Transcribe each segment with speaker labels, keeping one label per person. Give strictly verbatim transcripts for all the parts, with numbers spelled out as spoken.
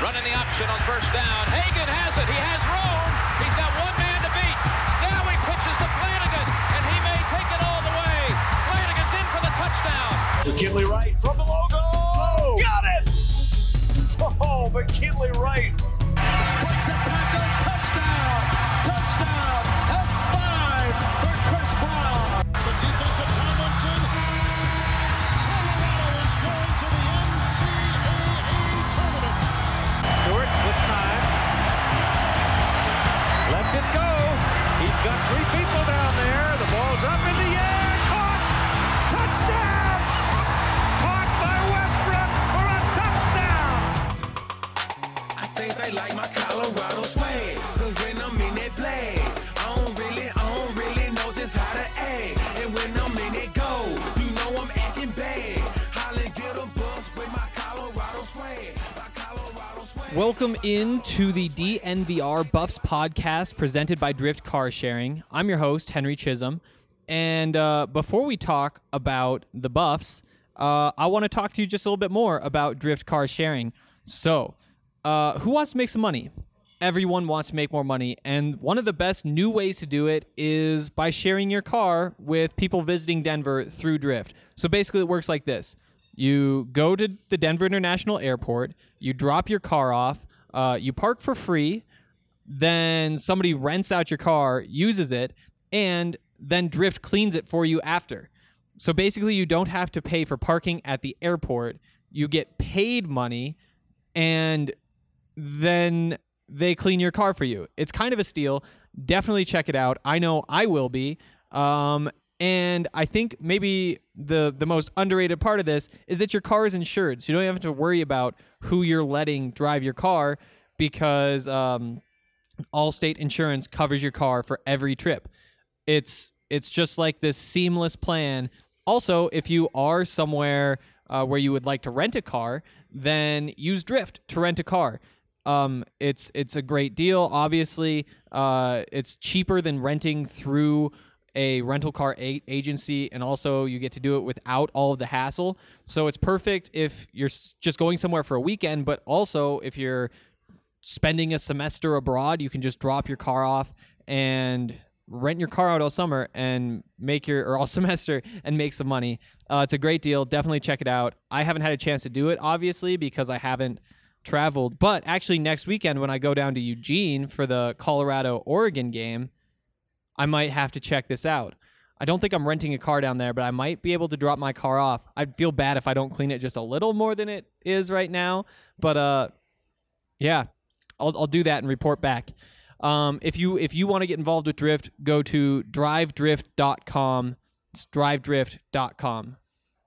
Speaker 1: Running the option on first down. Hagan has it. He has room. He's got one man to beat. Now he pitches to Flanagan, and he may take it all the way. Flanagan's in for the touchdown.
Speaker 2: McKinley Wright from the logo. Oh, got it! Oh, McKinley Wright.
Speaker 3: Breaks a tackle. Touchdown. Touchdown. That's five for Chris Brown.
Speaker 4: The defensive Tomlinson. Colorado is going to the N C double A tournament.
Speaker 3: Stewart with time. Lets it go. He's got three people down there. The ball's up in the air. Caught. Touchdown. Caught by Westbrook for a touchdown.
Speaker 5: I think they like my Colorado swag. Cause when I'm in that play, I don't really, I don't really know just how to act. And when I'm in it go, you know I'm acting bad. Holland get a bus with my Colorado swag. My Colorado swag.
Speaker 6: Welcome into the D N V R Buffs podcast presented by Drift Car Sharing. I'm your host, Henry Chisholm. And uh, before we talk about the Buffs, uh, I want to talk to you just a little bit more about Drift Car Sharing. So, uh, who wants to make some money? Everyone wants to make more money. And one of the best new ways to do it is by sharing your car with people visiting Denver through Drift. So basically it works like this. You go to the Denver International Airport, you drop your car off, uh, you park for free, then somebody rents out your car, uses it, and then Drift cleans it for you after. So basically you don't have to pay for parking at the airport. You get paid money, and then they clean your car for you. It's kind of a steal. Definitely check it out. I know I will be. Um, and I think maybe the, the most underrated part of this is that your car is insured. So you don't have to worry about who you're letting drive your car because um, Allstate Insurance covers your car for every trip. It's it's just like this seamless plan. Also, if you are somewhere uh, where you would like to rent a car, then use Drift to rent a car. Um, it's it's a great deal. Obviously, uh, it's cheaper than renting through a rental car a- agency, and also you get to do it without all of the hassle. So it's perfect if you're s- just going somewhere for a weekend, but also if you're spending a semester abroad, you can just drop your car off and rent your car out all summer and make your, or all semester and make some money. Uh, it's a great deal. Definitely check it out. I haven't had a chance to do it, obviously, because I haven't traveled. But actually next weekend when I go down to Eugene for the Colorado-Oregon game, I might have to check this out. I don't think I'm renting a car down there, but I might be able to drop my car off. I'd feel bad if I don't clean it just a little more than it is right now. But uh, yeah, I'll I'll do that and report back. Um, if you if you want to get involved with Drift, go to drive drift dot com. It's drive drift dot com.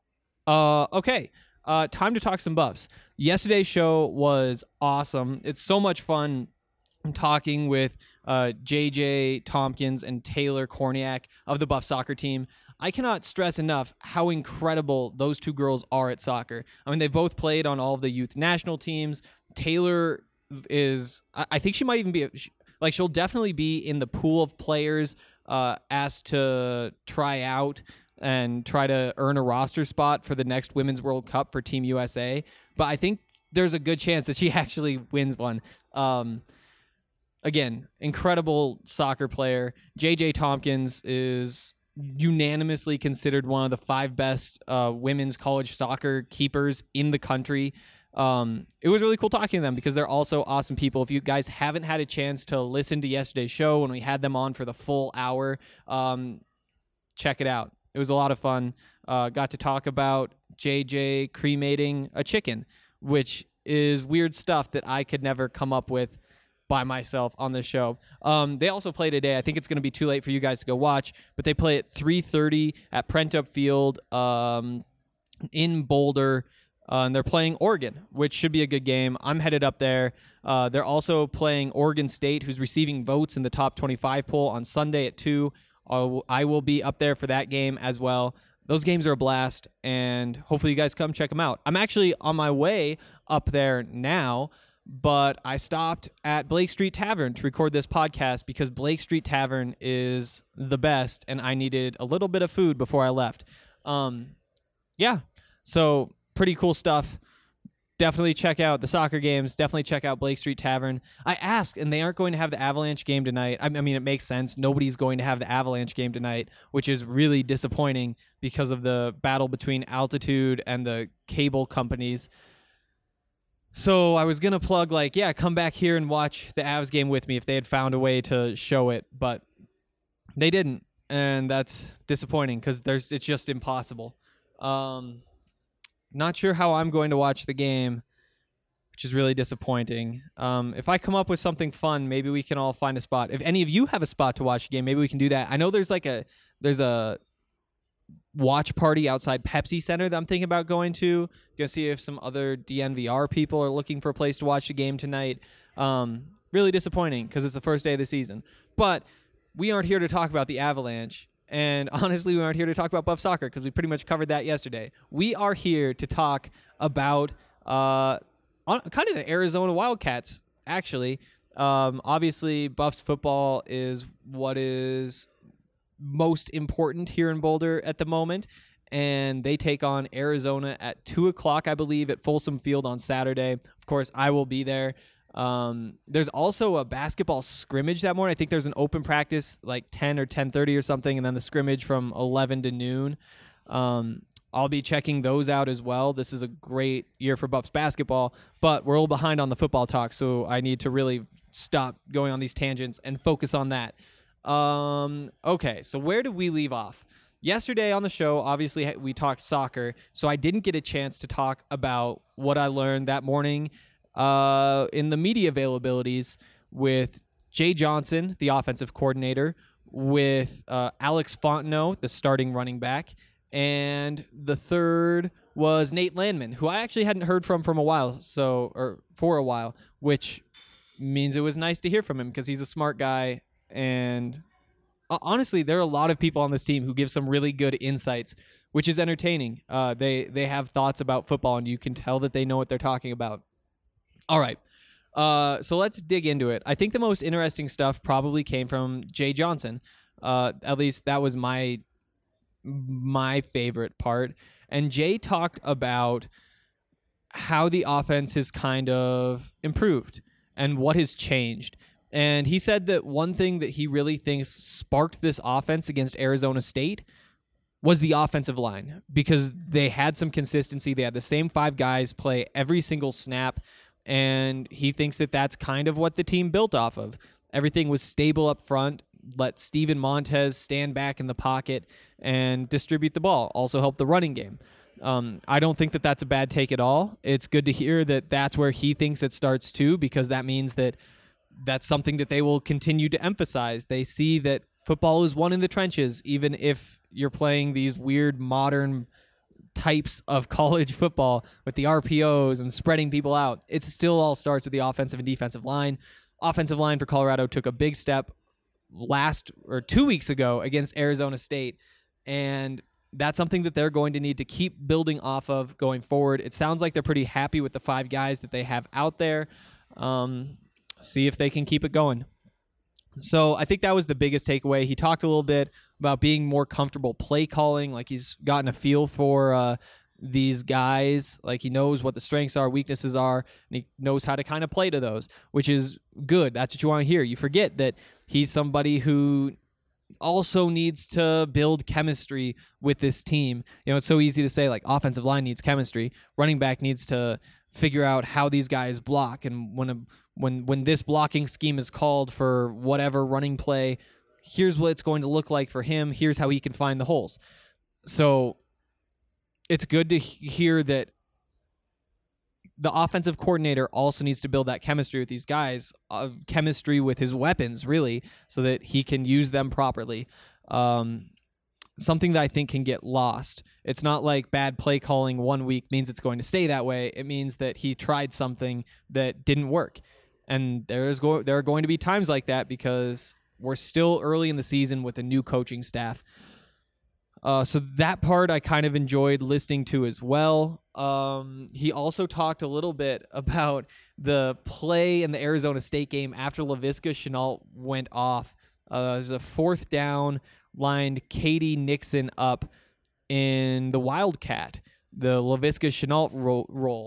Speaker 6: Uh, okay, uh, time to talk some Buffs. Yesterday's show was awesome. It's so much fun talking with uh, J J Tompkins and Taylor Korniak of the Buff soccer team. I cannot stress enough how incredible those two girls are at soccer. I mean, they both played on all of the youth national teams. Taylor is, I think she might even be, like, she'll definitely be in the pool of players uh, asked to try out and try to earn a roster spot for the next Women's World Cup for Team U S A. But I think there's a good chance that she actually wins one. Um, again, incredible soccer player. J J Tompkins is unanimously considered one of the five best uh, women's college soccer keepers in the country. Um, it was really cool talking to them because they're also awesome people. If you guys haven't had a chance to listen to yesterday's show when we had them on for the full hour, um, check it out. It was a lot of fun. Uh, got to talk about J J cremating a chicken, which is weird stuff that I could never come up with by myself on this show. Um, they also play today. I think it's going to be too late for you guys to go watch, but they play at three thirty at Prentup Field um, in Boulder. Uh, and they're playing Oregon, which should be a good game. I'm headed up there. Uh, they're also playing Oregon State, who's receiving votes in the top twenty-five poll on Sunday at two. Uh, I will be up there for that game as well. Those games are a blast, and hopefully you guys come check them out. I'm actually on my way up there now, but I stopped at Blake Street Tavern to record this podcast because Blake Street Tavern is the best, and I needed a little bit of food before I left. Um, yeah, so pretty cool stuff. definitely check out the soccer games. Definitely check out Blake Street Tavern. I asked, and they aren't going to have the Avalanche game tonight. I, I mean, it makes sense. Nobody's going to have the Avalanche game tonight, which is really disappointing because of the battle between Altitude and the cable companies. So I was going to plug, like, yeah, come back here and watch the Avs game with me if they had found a way to show it, but they didn't, and that's disappointing because there's it's just impossible. Um, not sure how I'm going to watch the game, which is really disappointing. Um, if I come up with something fun, maybe we can all find a spot. If any of you have a spot to watch the game, maybe we can do that. I know there's like a there's a watch party outside Pepsi Center that I'm thinking about going to. Gonna see if some other D N V R people are looking for a place to watch the game tonight. Um, really disappointing because it's the first day of the season. But we aren't here to talk about the Avalanche. And honestly, we aren't here to talk about Buff Soccer because we pretty much covered that yesterday. We are here to talk about uh, kind of the Arizona Wildcats, actually. Um, obviously, Buffs football is what is most important here in Boulder at the moment. And they take on Arizona at two o'clock, I believe, at Folsom Field on Saturday. Of course, I will be there. Um, there's also a basketball scrimmage that morning. I think there's an open practice like ten or ten thirty or something, and then the scrimmage from eleven to noon. Um, I'll be checking those out as well. This is a great year for Buffs basketball, but we're a little behind on the football talk, so I need to really stop going on these tangents and focus on that. Um, okay, so where did we leave off? Yesterday on the show, obviously, we talked soccer, so I didn't get a chance to talk about what I learned that morning uh, in the media availabilities with Jay Johnson, the offensive coordinator, with uh, Alex Fontenot, the starting running back, and the third was Nate Landman, who I actually hadn't heard from from a while, so or for a while, which means it was nice to hear from him because he's a smart guy. And uh, honestly, there are a lot of people on this team who give some really good insights, which is entertaining. Uh, they they have thoughts about football, and you can tell that they know what they're talking about. All right. Uh, so let's dig into it. I think the most interesting stuff probably came from Jay Johnson. Uh, at least that was my my favorite part. And Jay talked about how the offense has kind of improved and what has changed. And he said that one thing that he really thinks sparked this offense against Arizona State was the offensive line, because they had some consistency. They had the same five guys play every single snap. And he thinks that that's kind of what the team built off of. Everything was stable up front. Let Steven Montez stand back in the pocket and distribute the ball. Also help the running game. Um, I don't think that that's a bad take at all. It's good to hear that that's where he thinks it starts too, because that means that that's something that they will continue to emphasize. They see that football is won in the trenches, even if you're playing these weird modern types of college football with the R P Os and spreading people out. It still all starts with the offensive and defensive line. Offensive line for Colorado took a big step last or two weeks ago against Arizona State, and that's something that they're going to need to keep building off of going forward. It sounds like they're pretty happy with the five guys that they have out there. Um, see if they can keep it going. So I think that was the biggest takeaway. He talked a little bit about being more comfortable play calling, like he's gotten a feel for uh, these guys, like he knows what the strengths are, weaknesses are, and he knows how to kind of play to those, which is good. That's what you want to hear. You forget that he's somebody who also needs to build chemistry with this team. You know, it's so easy to say, like, offensive line needs chemistry. Running back needs to figure out how these guys block, and when a, when when this blocking scheme is called for whatever running play, here's what it's going to look like for him. Here's how he can find the holes. So it's good to hear that the offensive coordinator also needs to build that chemistry with these guys, uh, chemistry with his weapons, really, so that he can use them properly. Um, something that I think can get lost. It's not like bad play calling one week means it's going to stay that way. It means that he tried something that didn't work. And there is go- there are going to be times like that because we're still early in the season with a new coaching staff. Uh, so that part I kind of enjoyed listening to as well. Um, he also talked a little bit about the play in the Arizona State game after Laviska Shenault went off. Uh, there's a fourth down, lined Katie Nixon up in the Wildcat, the Laviska Shenault ro- role.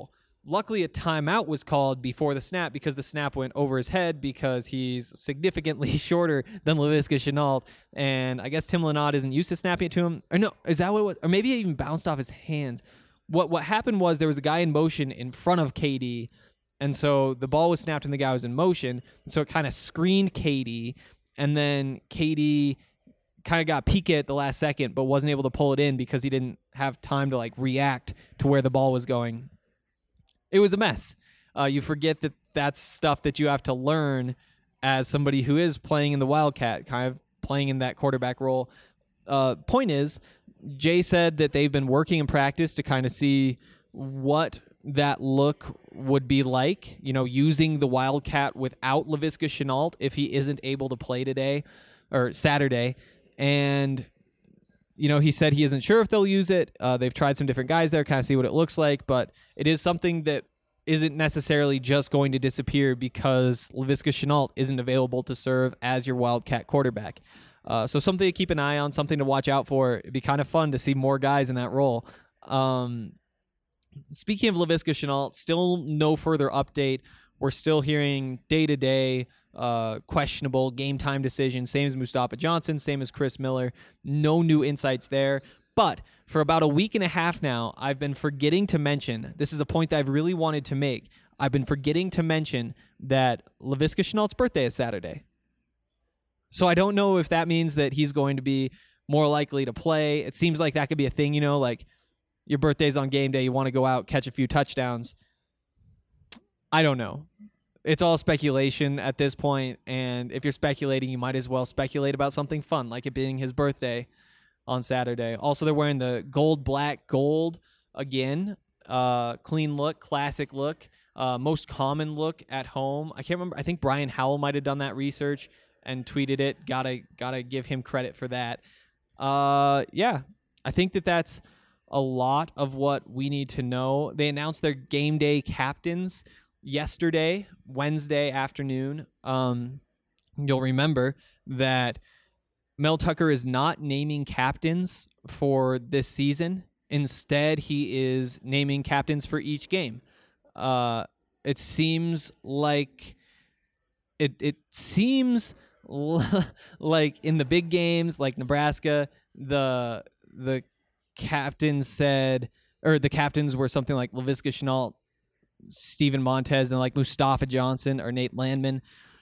Speaker 6: Luckily, a timeout was called before the snap because the snap went over his head because he's significantly shorter than Laviska Shenault. And I guess Tim Lynott isn't used to snapping it to him. Or no, is that what it was? Or maybe it even bounced off his hands. What what happened was there was a guy in motion in front of K D, and so the ball was snapped and the guy was in motion. So it kind of screened K D, and then K D kind of got peeked at the last second but wasn't able to pull it in because he didn't have time to like react to where the ball was going. It was a mess. Uh, you forget that that's stuff that you have to learn as somebody who is playing in the Wildcat, kind of playing in that quarterback role. Uh, point is, Jay said that they've been working in practice to kind of see what that look would be like, you know, using the Wildcat without Laviska Shenault if he isn't able to play today or Saturday. And, you know, he said he isn't sure if they'll use it. Uh, they've tried some different guys there, kind of see what it looks like, but it is something that isn't necessarily just going to disappear because Laviska Shenault isn't available to serve as your Wildcat quarterback. Uh, so something to keep an eye on, something to watch out for. It'd be kind of fun to see more guys in that role. Um, speaking of Laviska Shenault, still no further update. We're still hearing day-to-day uh, questionable game-time decisions, same as Mustafa Johnson, same as Chris Miller. No new insights there. But for about a week and a half now, I've been forgetting to mention, this is a point that I've really wanted to make, I've been forgetting to mention that Laviska Shenault's birthday is Saturday. So I don't know if that means that he's going to be more likely to play. It seems like that could be a thing, you know, like your birthday's on game day, you want to go out, catch a few touchdowns. I don't know. It's all speculation at this point, and if you're speculating, you might as well speculate about something fun, like it being his birthday on Saturday. Also, they're wearing the gold, black, gold again. Uh, clean look, classic look, uh, most common look at home. I can't remember. I think Brian Howell might have done that research and tweeted it. Gotta gotta give him credit for that. Uh, yeah, I think that that's a lot of what we need to know. They announced their game day captains yesterday, Wednesday afternoon. Um, you'll remember that Mel Tucker is not naming captains for this season. Instead, he is naming captains for each game. Uh, it seems like it. It seems like in the big games, like Nebraska, the the captains said, or the captains were something like Laviska Shenault, Steven Montez, and like Mustafa Johnson or Nate Landman.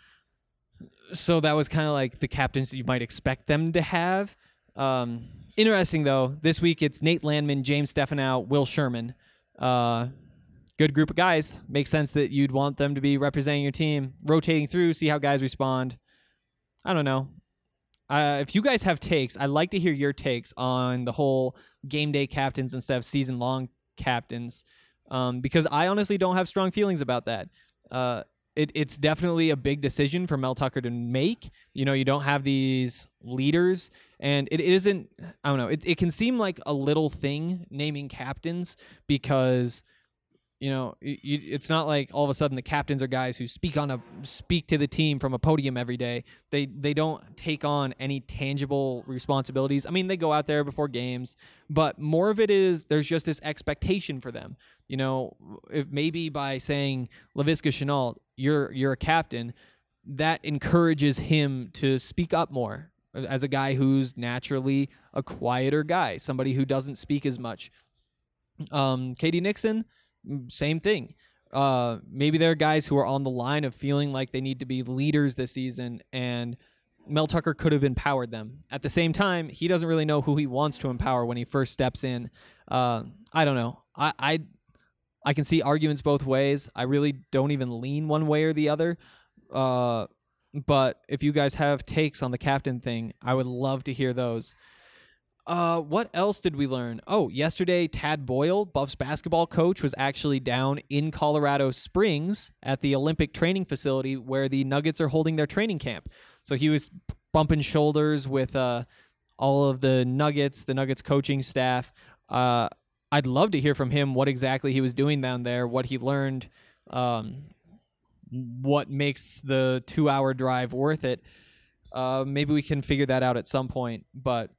Speaker 6: So that was kind of like the captains that you might expect them to have. Um, interesting, though, this week it's Nate Landman, James Stefanow, Will Sherman. Uh, good group of guys. Makes sense that you'd want them to be representing your team, rotating through, see how guys respond. I don't know. Uh, if you guys have takes, I'd like to hear your takes on the whole game day captains instead of season-long captains, um, because I honestly don't have strong feelings about that. Uh, It, it's definitely a big decision for Mel Tucker to make. You know, you don't have these leaders, and it isn't, I don't know, it, it can seem like a little thing naming captains because, you know, it, it's not like all of a sudden the captains are guys who speak on a speak to the team from a podium every day. They they don't take on any tangible responsibilities. I mean, they go out there before games, but more of it is there's just this expectation for them. You know, if maybe by saying Laviska Shenault, you're you're a captain, that encourages him to speak up more as a guy who's naturally a quieter guy, somebody who doesn't speak as much. Um, K D Nixon, same thing. Uh, maybe there are guys who are on the line of feeling like they need to be leaders this season, and Mel Tucker could have empowered them. At the same time, he doesn't really know who he wants to empower when he first steps in. Uh, I don't know. I, I I can see arguments both ways. I really don't even lean one way or the other. Uh, but if you guys have takes on the captain thing, I would love to hear those. Uh, what else did we learn? Oh, yesterday, Tad Boyle, Buffs basketball coach, was actually down in Colorado Springs at the Olympic training facility where the Nuggets are holding their training camp. So he was bumping shoulders with uh, all of the Nuggets, the Nuggets coaching staff. Uh, I'd love to hear from him what exactly he was doing down there, what he learned, um, what makes the two-hour drive worth it. Uh, maybe we can figure that out at some point, but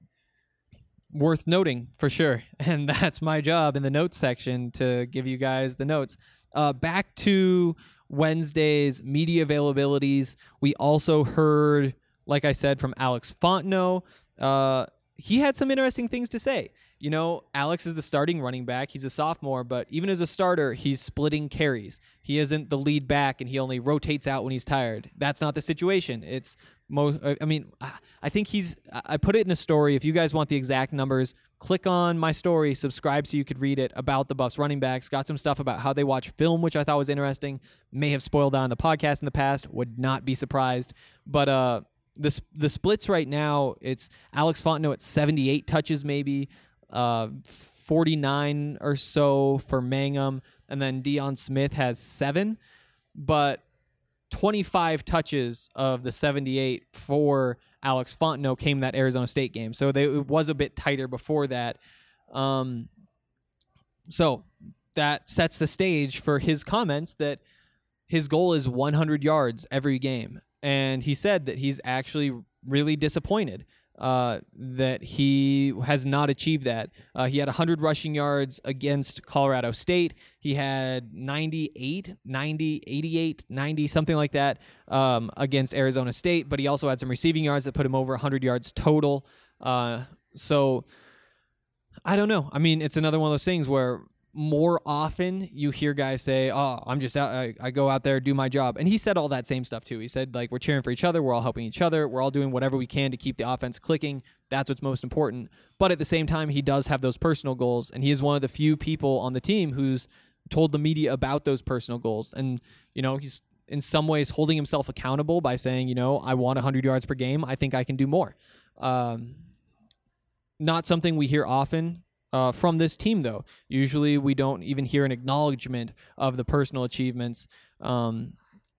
Speaker 6: worth noting for sure. And that's my job in the notes section to give you guys the notes. Uh, back to Wednesday's media availabilities. We also heard, like I said, from Alex Fontenot. Uh, he had some interesting things to say. You know, Alex is the starting running back. He's a sophomore, but even as a starter, he's splitting carries. He isn't the lead back, and he only rotates out when he's tired. That's not the situation. It's most. I mean, I think he's. I put it in a story. If you guys want the exact numbers, click on my story, subscribe so you could read it about the Buffs running backs. Got some stuff about how they watch film, which I thought was interesting. May have spoiled on the podcast in the past. Would not be surprised. But uh, the the splits right now, it's Alex Fontenot at seventy-eight touches, maybe. Uh, forty-nine or so for Mangum, and then Deion Smith has seven, but twenty-five touches of the seventy-eight for Alex Fontenot came that Arizona State game. So they, it was a bit tighter before that. Um, so that sets the stage for his comments that his goal is one hundred yards every game. And he said that he's actually really disappointed uh, that he has not achieved that. Uh, he had one hundred rushing yards against Colorado State. He had ninety-eight, ninety, eighty-eight, ninety, something like that um, against Arizona State. But he also had some receiving yards that put him over one hundred yards total. Uh, so I don't know. I mean, it's another one of those things where more often you hear guys say, oh, I'm just out, I, I go out there, do my job. And he said all that same stuff too. He said, like, we're cheering for each other. We're all helping each other. We're all doing whatever we can to keep the offense clicking. That's what's most important. But at the same time, he does have those personal goals. And he is one of the few people on the team who's told the media about those personal goals. And, you know, he's in some ways holding himself accountable by saying, you know, I want one hundred yards per game. I think I can do more. Um, not something we hear often Uh, from this team, though. Usually we don't even hear an acknowledgement of the personal achievements. Um,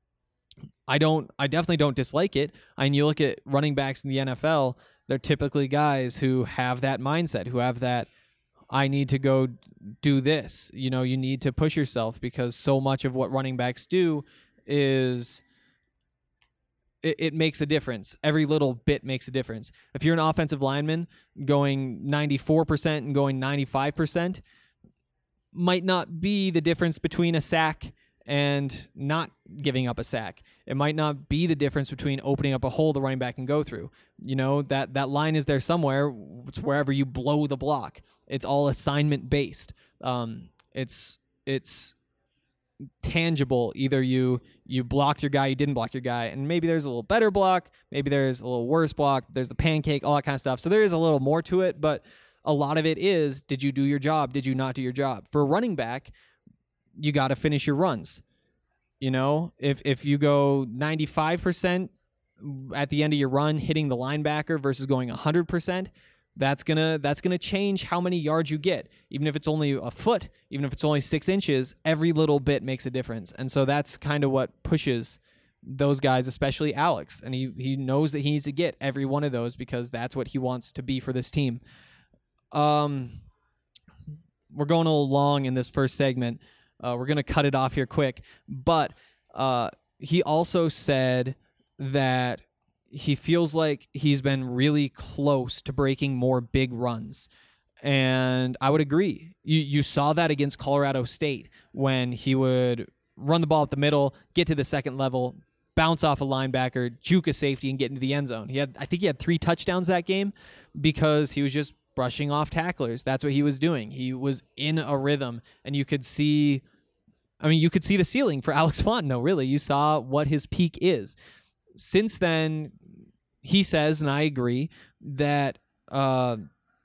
Speaker 6: I don't. I definitely don't dislike it. I mean, you look at running backs in the N F L, they're typically guys who have that mindset, who have that, I need to go do this. You know, you need to push yourself because so much of what running backs do is... It, it makes a difference. Every little bit makes a difference. If you're an offensive lineman going ninety-four percent and going ninety-five percent, might not be the difference between a sack and not giving up a sack. It might not be the difference between opening up a hole the running back can go through. You know, that, that line is there somewhere. It's wherever you blow the block. It's all assignment based. Um, it's it's... tangible. Either you you blocked your guy, you didn't block your guy, and maybe there's a little better block, maybe there's a little worse block, there's the pancake, all that kind of stuff. So there is a little more to it, but a lot of it is, did you do your job? Did you not do your job? For a running back, you got to finish your runs. You know, if if you go ninety-five percent at the end of your run hitting the linebacker versus going one hundred percent, That's gonna that's gonna change how many yards you get. Even if it's only a foot, even if it's only six inches, every little bit makes a difference. And so that's kind of what pushes those guys, especially Alex. And he he knows that he needs to get every one of those because that's what he wants to be for this team. Um, we're going a little long in this first segment. Uh, we're gonna cut it off here quick. But uh, he also said that he feels like he's been really close to breaking more big runs. And I would agree. You you saw that against Colorado State when he would run the ball up the middle, get to the second level, bounce off a linebacker, juke a safety, and get into the end zone. He had I think he had three touchdowns that game because he was just brushing off tacklers. That's what he was doing. He was in a rhythm, and you could see, I mean, you could see the ceiling for Alex Fontenot, really. You saw what his peak is. Since then, he says, and I agree, that uh,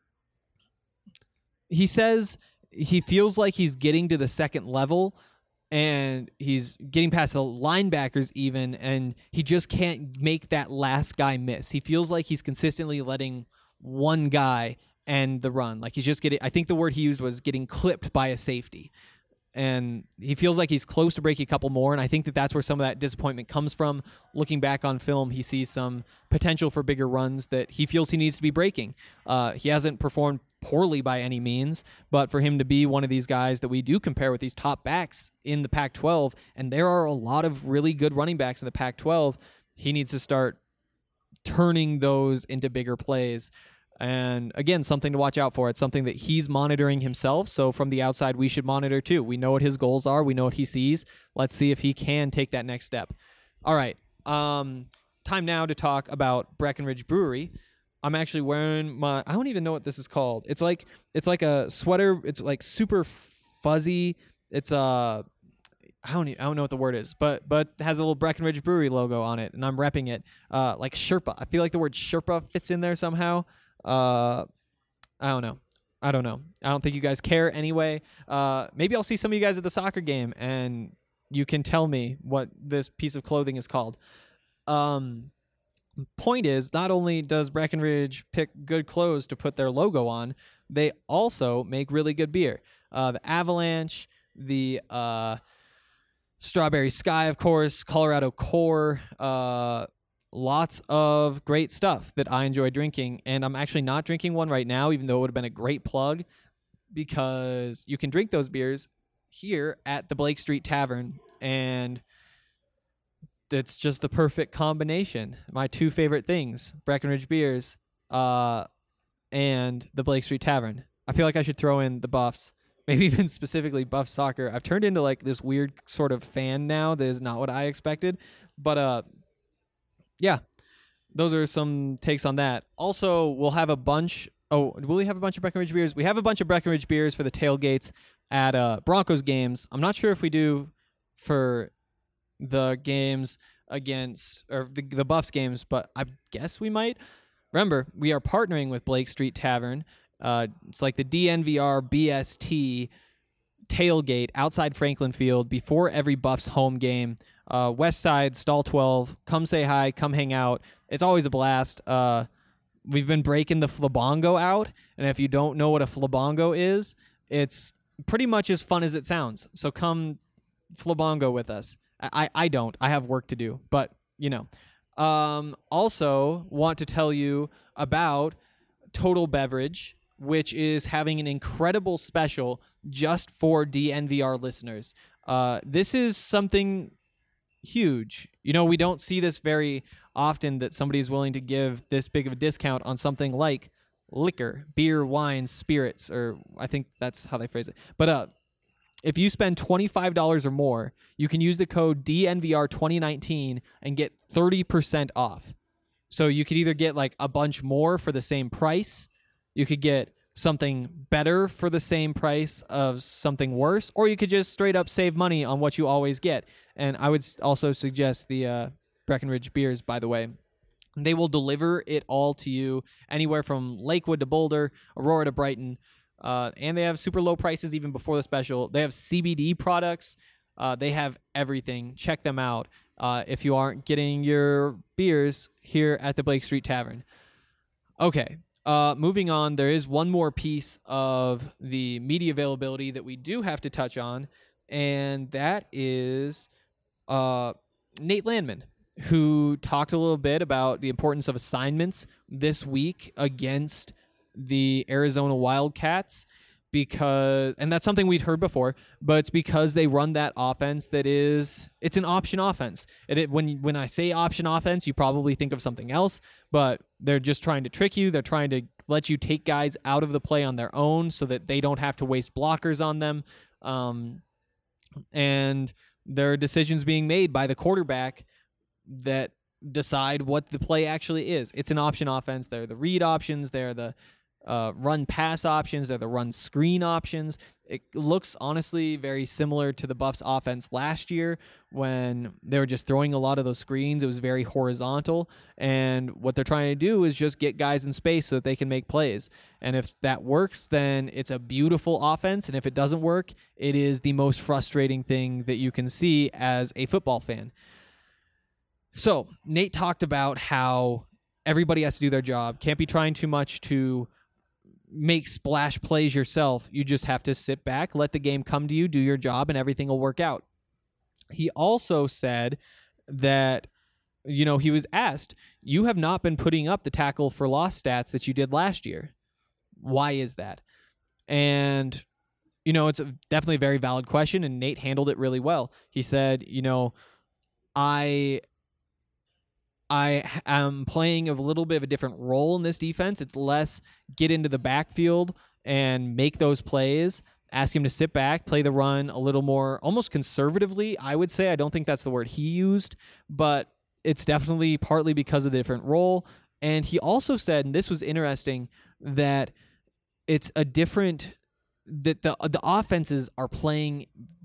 Speaker 6: he says he feels like he's getting to the second level and he's getting past the linebackers even, and he just can't make that last guy miss. He feels like he's consistently letting one guy end the run. Like he's just getting, I think the word he used was getting clipped by a safety. And he feels like he's close to breaking a couple more, and I think that that's where some of that disappointment comes from. Looking back on film, he sees some potential for bigger runs that he feels he needs to be breaking. Uh, he hasn't performed poorly by any means, but for him to be one of these guys that we do compare with these top backs in the Pac twelve, and there are a lot of really good running backs in the Pac twelve, he needs to start turning those into bigger plays. And again, something to watch out for. It's something that he's monitoring himself. So from the outside, we should monitor too. We know what his goals are. We know what he sees. Let's see if he can take that next step. All right. Um, time now to talk about Breckenridge Brewery. I'm actually wearing my, I don't even know what this is called. It's like, it's like a sweater. It's like super fuzzy. It's uh, I don't, even, I don't know what the word is, but but it has a little Breckenridge Brewery logo on it, and I'm repping it. Uh, like Sherpa. I feel like the word Sherpa fits in there somehow. Uh, I don't know. I don't know. I don't think you guys care anyway. Uh, maybe I'll see some of you guys at the soccer game, and you can tell me what this piece of clothing is called. Um, point is, not only does Breckenridge pick good clothes to put their logo on, they also make really good beer. Uh, the Avalanche, the uh, Strawberry Sky, of course, Colorado Core, uh, lots of great stuff that I enjoy drinking. And I'm actually not drinking one right now, even though it would have been a great plug, because you can drink those beers here at the Blake Street Tavern, and it's just the perfect combination. My two favorite things, Breckenridge beers uh, and the Blake Street Tavern. I feel like I should throw in the Buffs, maybe even specifically Buff Soccer. I've turned into like this weird sort of fan now that is not what I expected. But uh, yeah, those are some takes on that. Also, we'll have a bunch. Oh, will we have a bunch of Breckenridge beers? We have a bunch of Breckenridge beers for the tailgates at uh, Broncos games. I'm not sure if we do for the games against, or the, the Buffs games, but I guess we might. Remember, we are partnering with Blake Street Tavern. Uh, it's like the D N V R B S T tailgate outside Franklin Field before every Buffs home game. Uh, West Side, Stall twelve. Come say hi. Come hang out. It's always a blast. Uh, we've been breaking the flabongo out, and if you don't know what a flabongo is, it's pretty much as fun as it sounds. So come flabongo with us. I, I don't. I have work to do, but, you know. Um, also want to tell you about Total Beverage, which is having an incredible special just for D N V R listeners. Uh, this is something huge. You know, we don't see this very often, that somebody is willing to give this big of a discount on something like liquor, beer, wine, spirits, or I think that's how they phrase it. But uh, if you spend twenty-five dollars or more, you can use the code D N V R twenty nineteen and get thirty percent off. So you could either get like a bunch more for the same price, you could get something better for the same price of something worse, or you could just straight up save money on what you always get. And I would also suggest the uh, Breckenridge beers, by the way. They will deliver it all to you anywhere from Lakewood to Boulder, Aurora to Brighton. Uh, and they have super low prices even before the special. They have C B D products. Uh, they have everything. Check them out uh, if you aren't getting your beers here at the Blake Street Tavern. Okay, uh, moving on. There is one more piece of the media availability that we do have to touch on, and that is uh, Nate Landman, who talked a little bit about the importance of assignments this week against the Arizona Wildcats, because, and that's something we'd heard before, but it's because they run that offense that is, it's an option offense. It, it when when I say option offense, you probably think of something else, but they're just trying to trick you. They're trying to let you take guys out of the play on their own so that they don't have to waste blockers on them. Um, and there are decisions being made by the quarterback that decide what the play actually is. It's an option offense. They're the read options. They're the Uh, run pass options. They're the run screen options. It looks honestly very similar to the Buffs offense last year when they were just throwing a lot of those screens. It was very horizontal, and what they're trying to do is just get guys in space so that they can make plays. And if that works, then it's a beautiful offense, and if it doesn't work, it is the most frustrating thing that you can see as a football fan. So Nate talked about how everybody has to do their job. Can't be trying too much to make splash plays yourself. You just have to sit back, let the game come to you, do your job, and everything will work out. He also said that, you know, he was asked, you have not been putting up the tackle for loss stats that you did last year. Why is that? And, you know, it's a, definitely a very valid question, and Nate handled it really well. He said, you know, I I am playing a little bit of a different role in this defense. It's less get into the backfield and make those plays, ask him to sit back, play the run a little more, almost conservatively, I would say. I don't think that's the word he used, but it's definitely partly because of the different role. And he also said, and this was interesting, that it's a different, that the the offenses are playing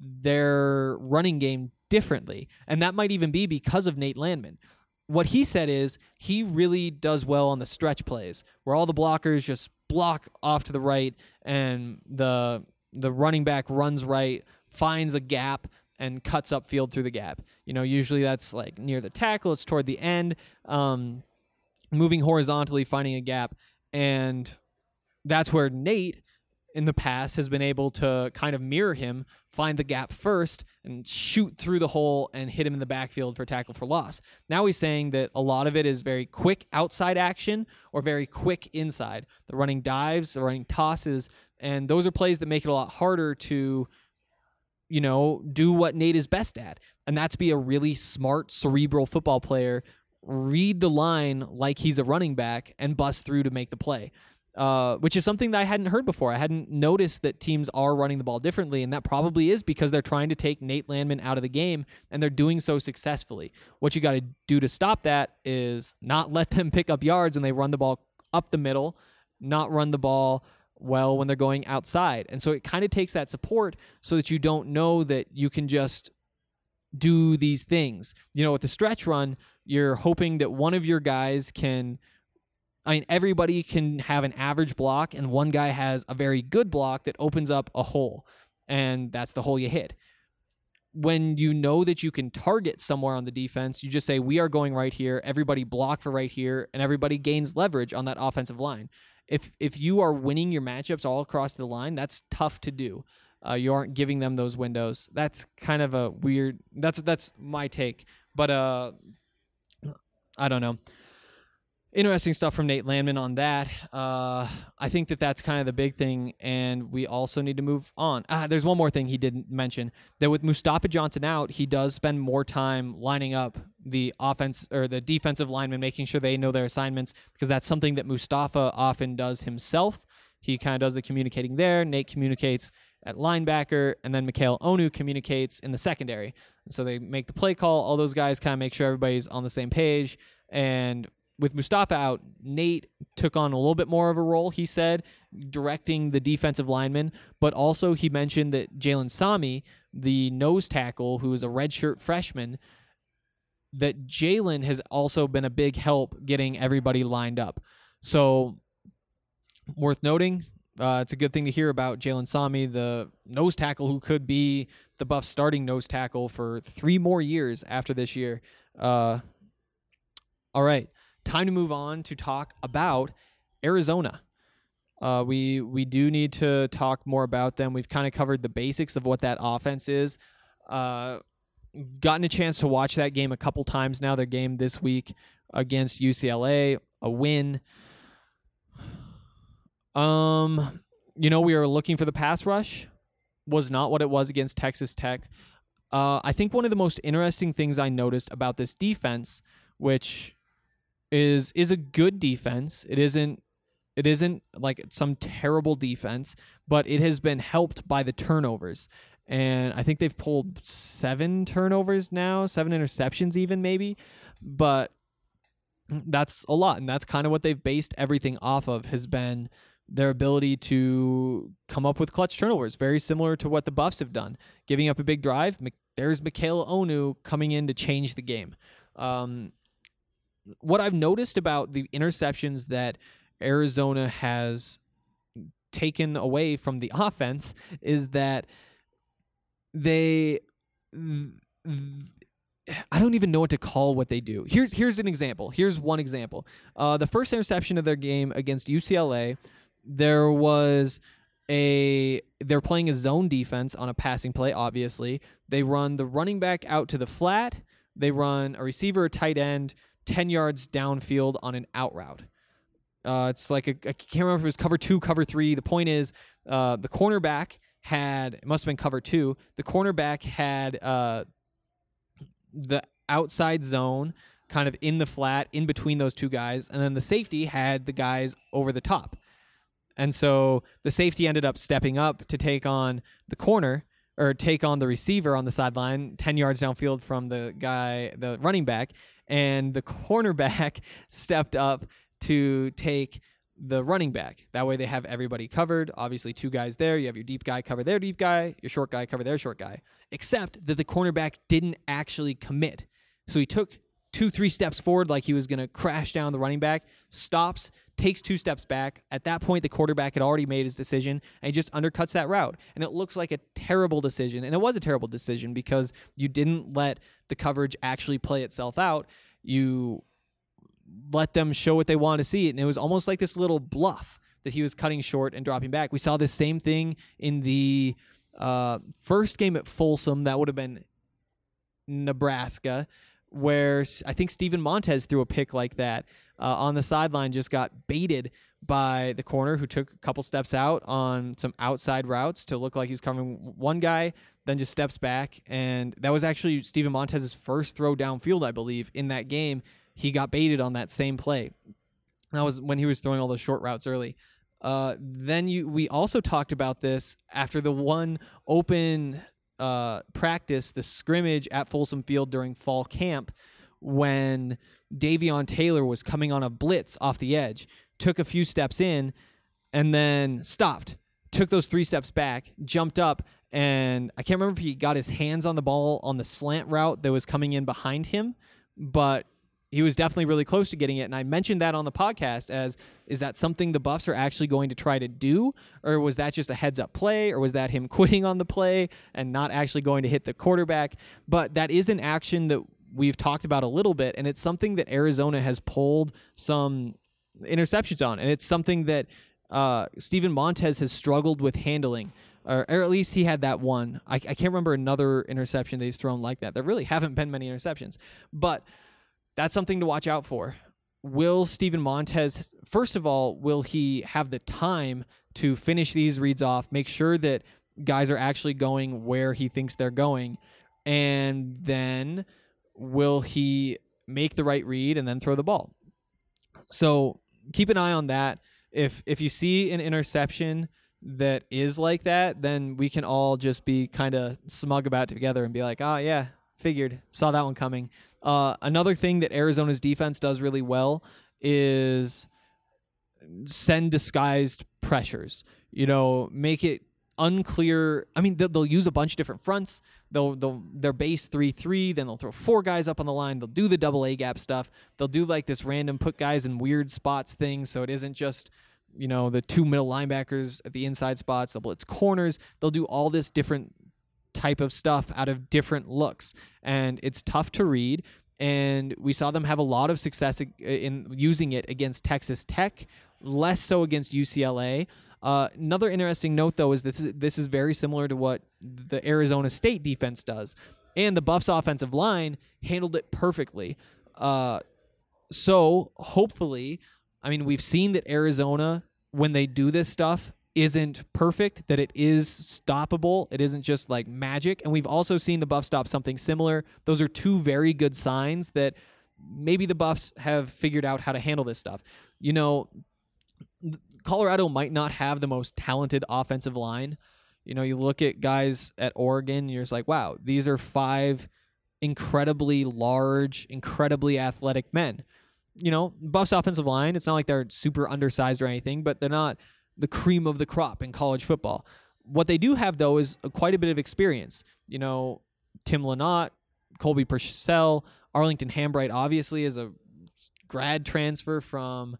Speaker 6: their running game differently. And that might even be because of Nate Landman. What he said is he really does well on the stretch plays where all the blockers just block off to the right and the the running back runs right, finds a gap, and cuts upfield through the gap. You know, usually that's like near the tackle. It's toward the end, um, moving horizontally, finding a gap. And that's where Nate in the past has been able to kind of mirror him, find the gap first, and shoot through the hole and hit him in the backfield for tackle for loss. Now he's saying that a lot of it is very quick outside action or very quick inside. The running dives, the running tosses, and those are plays that make it a lot harder to, you know, do what Nate is best at. And that's be a really smart, cerebral football player, read the line like he's a running back, and bust through to make the play. Uh, which is something that I hadn't heard before. I hadn't noticed that teams are running the ball differently, and that probably is because they're trying to take Nate Landman out of the game, and they're doing so successfully. What you got to do to stop that is not let them pick up yards when they run the ball up the middle, not run the ball well when they're going outside. And so it kind of takes that support so that you don't know that you can just do these things. You know, with the stretch run, you're hoping that one of your guys can... I mean, everybody can have an average block, and one guy has a very good block that opens up a hole, and that's the hole you hit. When you know that you can target somewhere on the defense, you just say, we are going right here, everybody block for right here, and everybody gains leverage on that offensive line. If if you are winning your matchups all across the line, that's tough to do. Uh, you aren't giving them those windows. That's kind of a weird, that's that's my take. But uh, I don't know. Interesting stuff from Nate Landman on that. Uh, I think that that's kind of the big thing, and we also need to move on. Ah, there's one more thing he didn't mention, that with Mustafa Johnson out, he does spend more time lining up the offense or the defensive linemen, making sure they know their assignments, because that's something that Mustafa often does himself. He kind of does the communicating there. Nate communicates at linebacker, and then Mikhail Onu communicates in the secondary. And so they make the play call. All those guys kind of make sure everybody's on the same page, and with Mustafa out, Nate took on a little bit more of a role, he said, directing the defensive linemen, but also he mentioned that Jalen Sami, the nose tackle, who is a redshirt freshman, that Jalen has also been a big help getting everybody lined up. So, worth noting, uh, it's a good thing to hear about Jalen Sami, the nose tackle who could be the Buffs' starting nose tackle for three more years after this year. Uh, all right. Time to move on to talk about Arizona. Uh, we we do need to talk more about them. We've kind of covered the basics of what that offense is. Uh, gotten a chance to watch that game a couple times now. Their game this week against U C L A, a win. Um, you know, we were looking for the pass rush. Was not what it was against Texas Tech. Uh, I think one of the most interesting things I noticed about this defense, which is is a good defense. It isn't it isn't like some terrible defense, but it has been helped by the turnovers. And I think they've pulled seven turnovers now, seven interceptions even maybe, but that's a lot. And that's kind of what they've based everything off of, has been their ability to come up with clutch turnovers, very similar to what the Buffs have done. Giving up a big drive, there's Mikhail Onu coming in to change the game. Um, What I've noticed about the interceptions that Arizona has taken away from the offense is that they, I don't even know what to call what they do. Here's here's an example. Here's one example. Uh, the first interception of their game against U C L A, there was a, they're playing a zone defense on a passing play, obviously. They run the running back out to the flat. They run a receiver, a tight end, ten yards downfield on an out route. Uh, it's like, a, I can't remember if it was cover two, cover three. The point is, uh, the cornerback had, it must have been cover two, the cornerback had uh, the outside zone, kind of in the flat, in between those two guys, and then the safety had the guys over the top. And so the safety ended up stepping up to take on the corner, or take on the receiver on the sideline, ten yards downfield from the guy, the running back, and the cornerback stepped up to take the running back. That way they have everybody covered. Obviously, two guys there. You have your deep guy cover their deep guy, your short guy cover their short guy. Except that the cornerback didn't actually commit. So he took two, three steps forward like he was going to crash down the running back, stops, takes two steps back. At that point, the quarterback had already made his decision, and he just undercuts that route. And it looks like a terrible decision. And it was a terrible decision because you didn't let the coverage actually play itself out. You let them show what they wanted to see. And it was almost like this little bluff that he was cutting short and dropping back. We saw this same thing in the uh, first game at Folsom. That would have been Nebraska, where I think Steven Montez threw a pick like that uh, on the sideline, just got baited by the corner who took a couple steps out on some outside routes to look like he was covering one guy, then just steps back. And that was actually Steven Montez's first throw downfield, I believe, in that game. He got baited on that same play. That was when he was throwing all those short routes early. Uh, then you, we also talked about this after the one open uh, practice, the scrimmage at Folsom Field during fall camp, when Davion Taylor was coming on a blitz off the edge, took a few steps in, and then stopped, took those three steps back, jumped up, and I can't remember if he got his hands on the ball on the slant route that was coming in behind him, but he was definitely really close to getting it. And I mentioned that on the podcast as, is that something the Buffs are actually going to try to do? Or was that just a heads up play? Or was that him quitting on the play and not actually going to hit the quarterback? But that is an action that we've talked about a little bit. And it's something that Arizona has pulled some interceptions on. And it's something that uh, Steven Montez has struggled with handling. Or, or at least he had that one. I, I can't remember another interception that he's thrown like that. There really haven't been many interceptions. But that's something to watch out for. Will Steven Montez, first of all, will he have the time to finish these reads off, make sure that guys are actually going where he thinks they're going, and then will he make the right read and then throw the ball? So keep an eye on that. If if you see an interception that is like that, then we can all just be kind of smug about it together and be like, oh, yeah, figured, saw that one coming. Uh, another thing that Arizona's defense does really well is send disguised pressures. You know, make it unclear. I mean, they'll, they'll use a bunch of different fronts. They'll they'll they're base three three. Then they'll throw four guys up on the line. They'll do the double A gap stuff. They'll do like this random put guys in weird spots thing. So it isn't just, you know, the two middle linebackers at the inside spots. They'll blitz corners. They'll do all this different type of stuff out of different looks, and it's tough to read. And we saw them have a lot of success in using it against Texas Tech, less so against U C L A. Uh, another interesting note, though, is this this is very similar to what the Arizona State defense does, and the Buffs offensive line handled it perfectly. Uh, so hopefully, I mean, we've seen that Arizona, when they do this stuff, isn't perfect, that it is stoppable. It isn't just like magic. And we've also seen the Buffs stop something similar. Those are two very good signs that maybe the Buffs have figured out how to handle this stuff. You know, Colorado might not have the most talented offensive line. You know, you look at guys at Oregon, you're just like, wow, these are five incredibly large, incredibly athletic men. You know, Buffs offensive line, it's not like they're super undersized or anything, but they're not the cream of the crop in college football. What they do have, though, is quite a bit of experience. You know, Tim Lynott, Colby Purcell, Arlington Hambright, obviously, is a grad transfer from,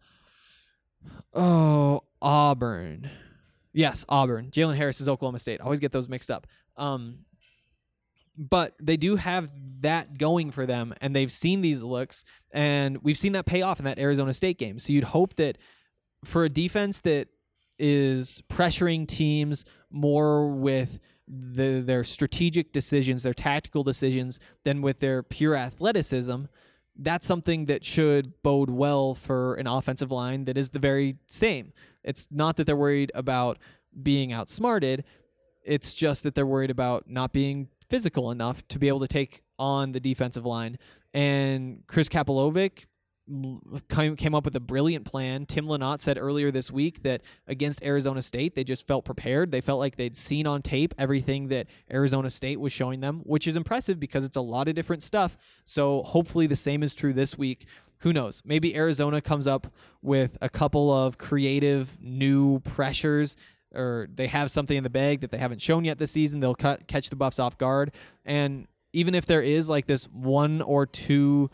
Speaker 6: oh, Auburn. Yes, Auburn. Jalen Harris is Oklahoma State. I always get those mixed up. Um, but they do have that going for them, and they've seen these looks, and we've seen that pay off in that Arizona State game. So you'd hope that for a defense that is pressuring teams more with the, their strategic decisions, their tactical decisions, than with their pure athleticism, that's something that should bode well for an offensive line that is the very same. It's not that they're worried about being outsmarted. It's just that they're worried about not being physical enough to be able to take on the defensive line. And Chris Kapilovic came came up with a brilliant plan. Tim Lynott said earlier this week that against Arizona State, they just felt prepared. They felt like they'd seen on tape everything that Arizona State was showing them, which is impressive because it's a lot of different stuff. So hopefully the same is true this week. Who knows? Maybe Arizona comes up with a couple of creative new pressures, or they have something in the bag that they haven't shown yet this season. They'll cut, catch the Buffs off guard. And even if there is like this one or two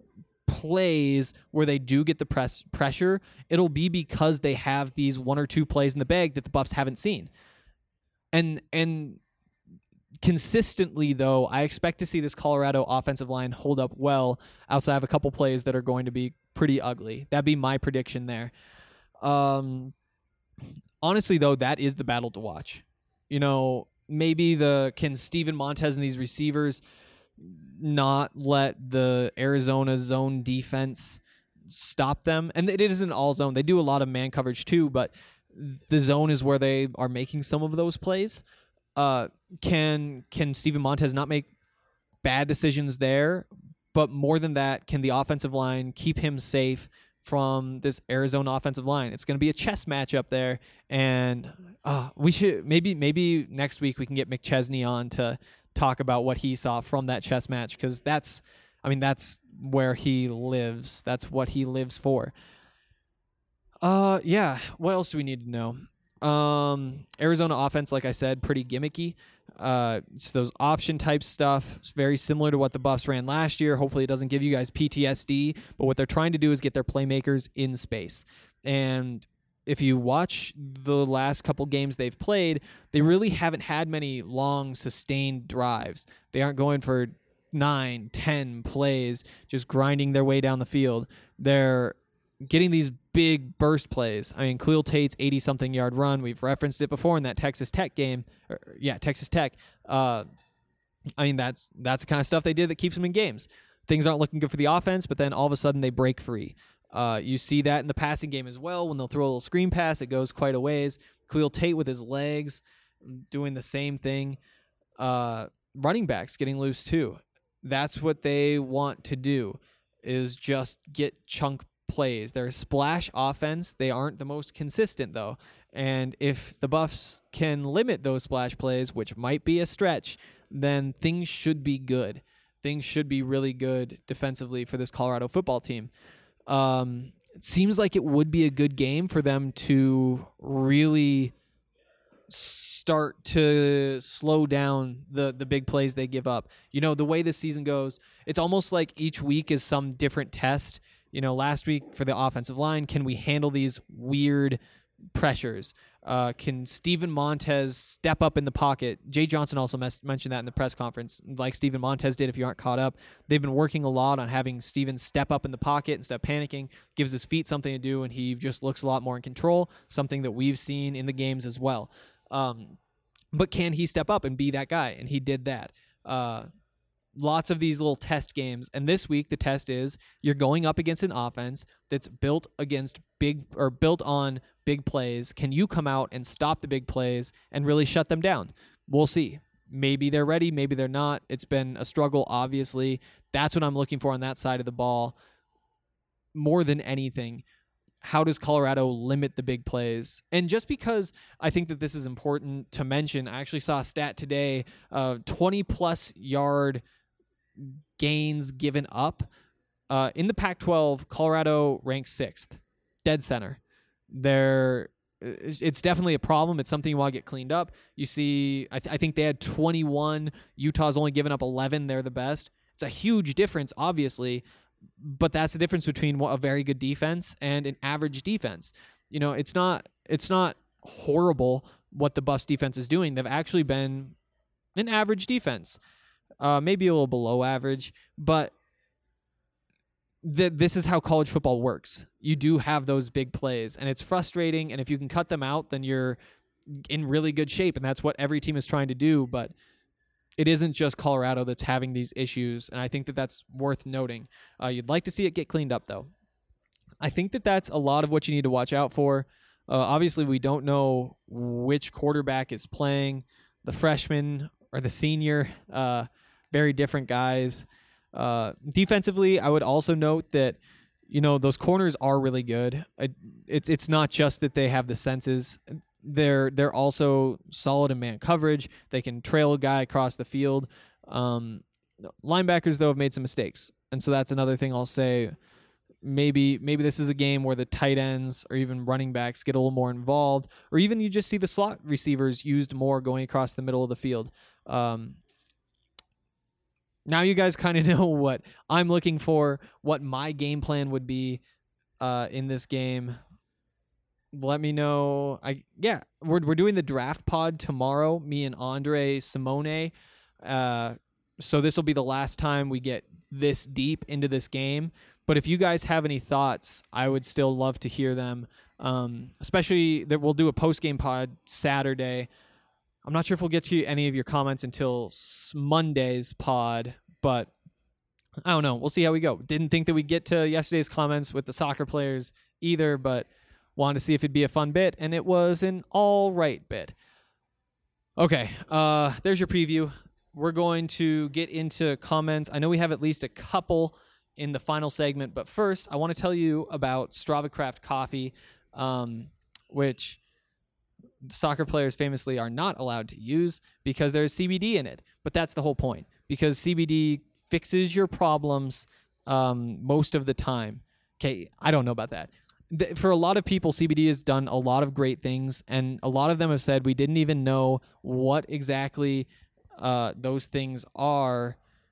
Speaker 6: plays where they do get the press pressure, it'll be because they have these one or two plays in the bag that the Buffs haven't seen. And and consistently, though, I expect to see this Colorado offensive line hold up well outside of a couple plays that are going to be pretty ugly. That'd be my prediction there. Um, honestly, though, that is the battle to watch. You know, maybe the can Steven Montez and these receivers not let the Arizona zone defense stop them. And it isn't all zone. They do a lot of man coverage too, but the zone is where they are making some of those plays. Uh, can can Steven Montez not make bad decisions there? But more than that, can the offensive line keep him safe from this Arizona offensive line? It's going to be a chess match up there, and uh, we should maybe maybe next week we can get McChesney on to talk about what he saw from that chess match, because that's, I mean, that's where he lives. That's what he lives for. Uh, yeah. What else do we need to know? Um, Arizona offense, like I said, pretty gimmicky. Uh, it's those option type stuff. It's very similar to what the Buffs ran last year. Hopefully it doesn't give you guys P T S D, but what they're trying to do is get their playmakers in space. And if you watch the last couple games they've played, they really haven't had many long, sustained drives. They aren't going for nine, ten plays, just grinding their way down the field. They're getting these big burst plays. I mean, Khalil Tate's eighty-something yard run, we've referenced it before in that Texas Tech game. Or, yeah, Texas Tech. Uh, I mean, that's that's the kind of stuff they did that keeps them in games. Things aren't looking good for the offense, but then all of a sudden they break free. Uh, you see that in the passing game as well. When they'll throw a little screen pass, it goes quite a ways. Khalil Tate with his legs doing the same thing. Uh, running backs getting loose too. That's what they want to do, is just get chunk plays. They're a splash offense. They aren't the most consistent, though. And if the Buffs can limit those splash plays, which might be a stretch, then things should be good. Things should be really good defensively for this Colorado football team. Um, it seems like it would be a good game for them to really start to slow down the, the big plays they give up. You know, the way this season goes, it's almost like each week is some different test. You know, last week for the offensive line, can we handle these weird pressures? Uh, can Steven Montez step up in the pocket? Jay Johnson also mes- mentioned that in the press conference, like Steven Montez did. If you aren't caught up, they've been working a lot on having Steven step up in the pocket instead of panicking, gives his feet something to do, and he just looks a lot more in control, something that we've seen in the games as well. Um, but can he step up and be that guy? And he did that. Uh, lots of these little test games. And this week, the test is you're going up against an offense that's built against big or built on big plays. Can you come out and stop the big plays and really shut them down? We'll see. Maybe they're ready. Maybe they're not. It's been a struggle, obviously. That's what I'm looking for on that side of the ball. More than anything, how does Colorado limit the big plays? And just because I think that this is important to mention, I actually saw a stat today, uh, twenty-plus yard gains given up. Uh, in the Pac twelve, Colorado ranks sixth, dead center. They're, it's definitely a problem. It's something you want to get cleaned up. You see, I, th- I think they had twenty-one. Utah's only given up eleven. They're the best. It's a huge difference, obviously, but that's the difference between a very good defense and an average defense. You know, it's not it's not horrible what the Buffs defense is doing. They've actually been an average defense. Uh, maybe a little below average, but th- this is how college football works. You do have those big plays, and it's frustrating, and if you can cut them out, then you're in really good shape, and that's what every team is trying to do, but it isn't just Colorado that's having these issues, and I think that that's worth noting. Uh, you'd like to see it get cleaned up, though. I think that that's a lot of what you need to watch out for. Uh, obviously, we don't know which quarterback is playing. The freshman or the senior. Uh, very different guys. Uh, defensively, I would also note that, you know, those corners are really good. It, it's it's not just that they have the senses. They're they're also solid in man coverage. They can trail a guy across the field. Um, linebackers, though, have made some mistakes. And so that's another thing I'll say. Maybe maybe this is a game where the tight ends or even running backs get a little more involved, or even you just see the slot receivers used more going across the middle of the field. Um, now you guys kind of know what I'm looking for, what my game plan would be uh, in this game. Let me know. I yeah, we're we're doing the draft pod tomorrow. Me and Andre Simone. Uh, so this will be the last time we get this deep into this game. But if you guys have any thoughts, I would still love to hear them. Um, especially that we'll do a post game pod Saturday. I'm not sure if we'll get to any of your comments until Monday's pod, but I don't know. We'll see how we go. Didn't think that we'd get to yesterday's comments with the soccer players either, but wanted to see if it'd be a fun bit, and it was an all right bit. Okay, uh, there's your preview. We're going to get into comments. I know we have at least a couple in the final segment, but first I want to tell you about Strava Craft Coffee, um, which soccer players famously are not allowed to use because there's C B D in it. But that's the whole point, because C B D fixes your problems um, most of the time. Okay, I don't know about that. For a lot of people, C B D has done a lot of great things, and a lot of them have said we didn't even know what exactly uh, those things are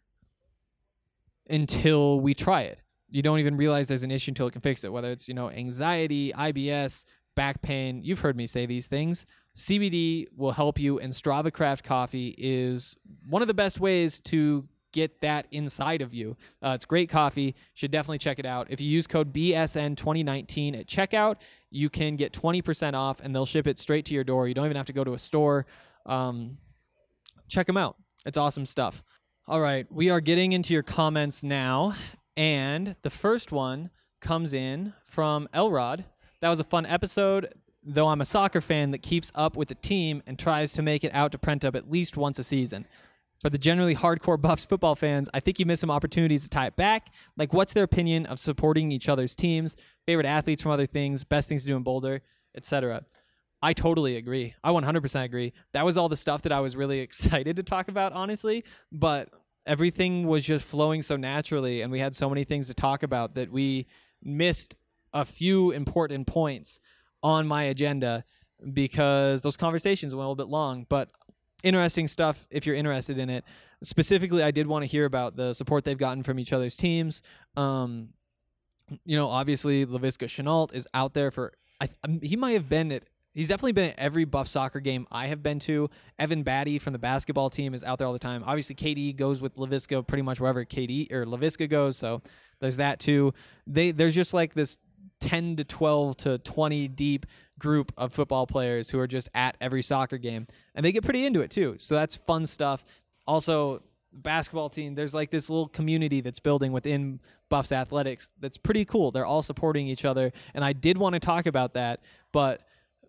Speaker 6: until we try it. You don't even realize there's an issue until it can fix it, whether it's, you know, anxiety, I B S, back pain. You've heard me say these things. C B D will help you, and Strava Craft Coffee is one of the best ways to get that inside of you. Uh, it's great coffee. Should definitely check it out. If you use code B S N twenty nineteen at checkout, you can get twenty percent off, and they'll ship it straight to your door. You don't even have to go to a store. Um, check them out. It's awesome stuff. All right, we are getting into your comments now, and the first one comes in from Elrod. That was a fun episode, though I'm a soccer fan that keeps up with the team and tries to make it out to Prentup at least once a season. For the generally hardcore Buffs football fans, I think you miss some opportunities to tie it back. Like, what's their opinion of supporting each other's teams, favorite athletes from other things, best things to do in Boulder, et cetera. I totally agree. I one hundred percent agree. That was all the stuff that I was really excited to talk about, honestly, but everything was just flowing so naturally, and we had so many things to talk about that we missed a few important points on my agenda because those conversations went a little bit long, but interesting stuff if you're interested in it. Specifically, I did want to hear about the support they've gotten from each other's teams. Um, you know, obviously, Laviska Shenault is out there for, I, he might have been at, he's definitely been at every Buff soccer game I have been to. Evan Batty from the basketball team is out there all the time. Obviously, K D goes with Laviska pretty much wherever K D or Laviska goes, so there's that too. They There's just like this ten to twelve to twenty deep group of football players who are just at every soccer game, and they get pretty into it too. So that's fun stuff. Also, basketball team, there's like this little community that's building within Buffs athletics that's pretty cool. They're all supporting each other, and I did want to talk about that, but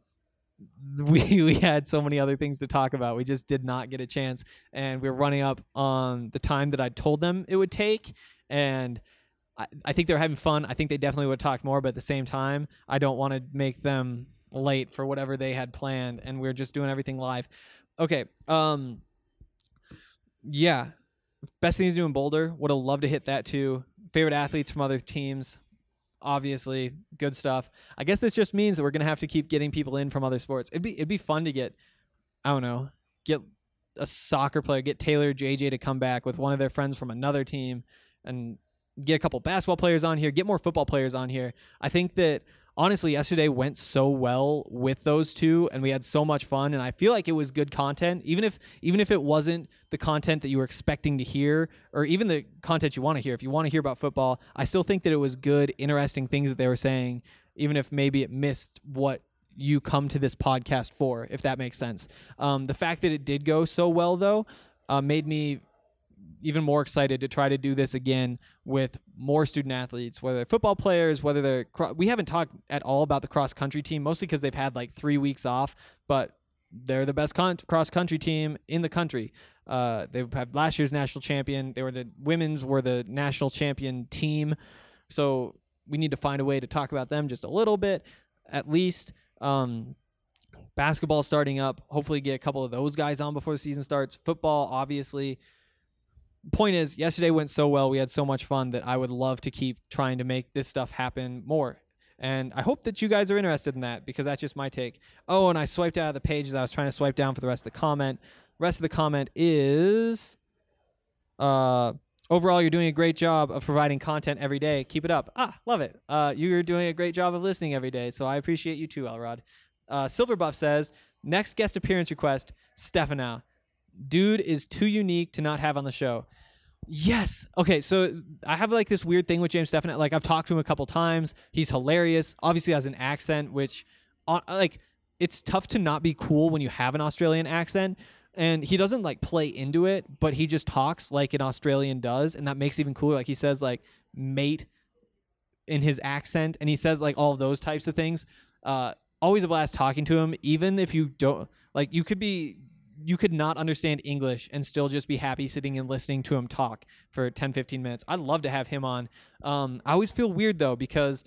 Speaker 6: we we had so many other things to talk about. We just did not get a chance, and we were running up on the time that I told them it would take, and I, I think they're having fun. I think they definitely would talk more, but at the same time, I don't want to make them late for whatever they had planned, and we're just doing everything live. Okay, um, yeah, best things to do in Boulder. Would have loved to hit that too. Favorite athletes from other teams. Obviously, good stuff. I guess this just means that we're gonna have to keep getting people in from other sports. It'd be it'd be fun to get, I don't know, get a soccer player, get Taylor J J to come back with one of their friends from another team, and get a couple basketball players on here, get more football players on here. I think that honestly, yesterday went so well with those two, and we had so much fun, and I feel like it was good content, even if even if it wasn't the content that you were expecting to hear, or even the content you want to hear. If you want to hear about football, I still think that it was good, interesting things that they were saying, even if maybe it missed what you come to this podcast for, if that makes sense. Um, the fact that it did go so well, though, uh, made me even more excited to try to do this again with more student athletes, whether they're football players, whether they're, cro- we haven't talked at all about the cross country team, mostly because they've had like three weeks off, but they're the best con- cross country team in the country. Uh, they had last year's national champion. They were the women's were the national champion team. So we need to find a way to talk about them just a little bit, at least. Um, basketball starting up. Hopefully get a couple of those guys on before the season starts. Football, obviously. Point is, yesterday went so well. We had so much fun that I would love to keep trying to make this stuff happen more. And I hope that you guys are interested in that, because that's just my take. Oh, and I swiped out of the page as I was trying to swipe down for the rest of the comment. The rest of the comment is, uh, overall, you're doing a great job of providing content every day. Keep it up. Ah, love it. Uh, you're doing a great job of listening every day, so I appreciate you too, Elrod. Uh, Silverbuff says, next guest appearance request, Stefanow. Dude is too unique to not have on the show. Yes. Okay, so I have like this weird thing with James Stefanow. Like, I've talked to him a couple times. He's hilarious. Obviously has an accent, which, uh, like, it's tough to not be cool when you have an Australian accent. And he doesn't, like, play into it, but he just talks like an Australian does, and that makes it even cooler. Like, he says, like, mate in his accent, and he says, like, all of those types of things. Uh, always a blast talking to him, even if you don't, like, you could be... you could not understand English and still just be happy sitting and listening to him talk for ten, fifteen minutes. I'd love to have him on. Um, I always feel weird, though, because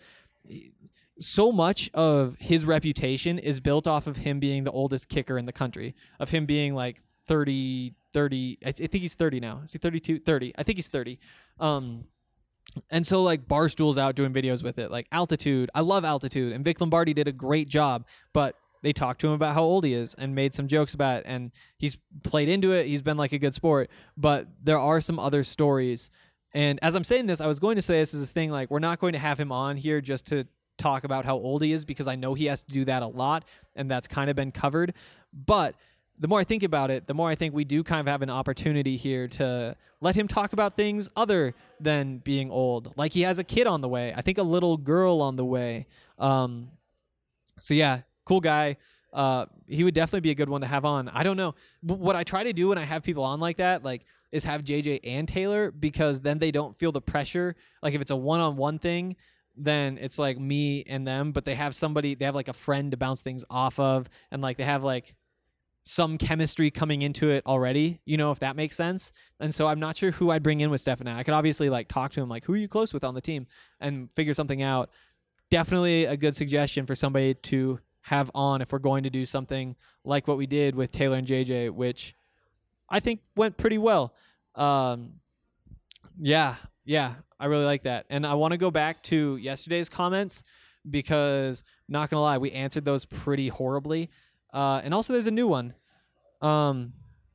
Speaker 6: so much of his reputation is built off of him being the oldest kicker in the country, of him being like thirty, thirty. I think he's thirty now. Is he thirty-two? thirty. I think he's thirty. Um, and so, like, Barstool's out doing videos with it. Like, Altitude. I love Altitude. And Vic Lombardi did a great job, but they talked to him about how old he is and made some jokes about it, and he's played into it. He's been like a good sport, but there are some other stories. And as I'm saying this, I was going to say this is a thing, like, we're not going to have him on here just to talk about how old he is, because I know he has to do that a lot, and that's kind of been covered. But the more I think about it, the more I think we do kind of have an opportunity here to let him talk about things other than being old. Like, he has a kid on the way. I think a little girl on the way. Um, so yeah, cool guy. Uh, he would definitely be a good one to have on. I don't know. What I try to do when I have people on like that, like, is have J J and Taylor, because then they don't feel the pressure. Like, if it's a one-on-one thing, then it's like me and them, but they have somebody, they have like a friend to bounce things off of, and like they have like some chemistry coming into it already, you know, if that makes sense. And so I'm not sure who I'd bring in with Stefanow. I could obviously like talk to him, like, who are you close with on the team, and figure something out. Definitely a good suggestion for somebody to have on if we're going to do something like what we did with Taylor and J J, which I think went pretty well. Um, yeah, yeah, I really like that. And I want to go back to yesterday's comments, because, not going to lie, we answered those pretty horribly. Uh, and also there's a new one. Um,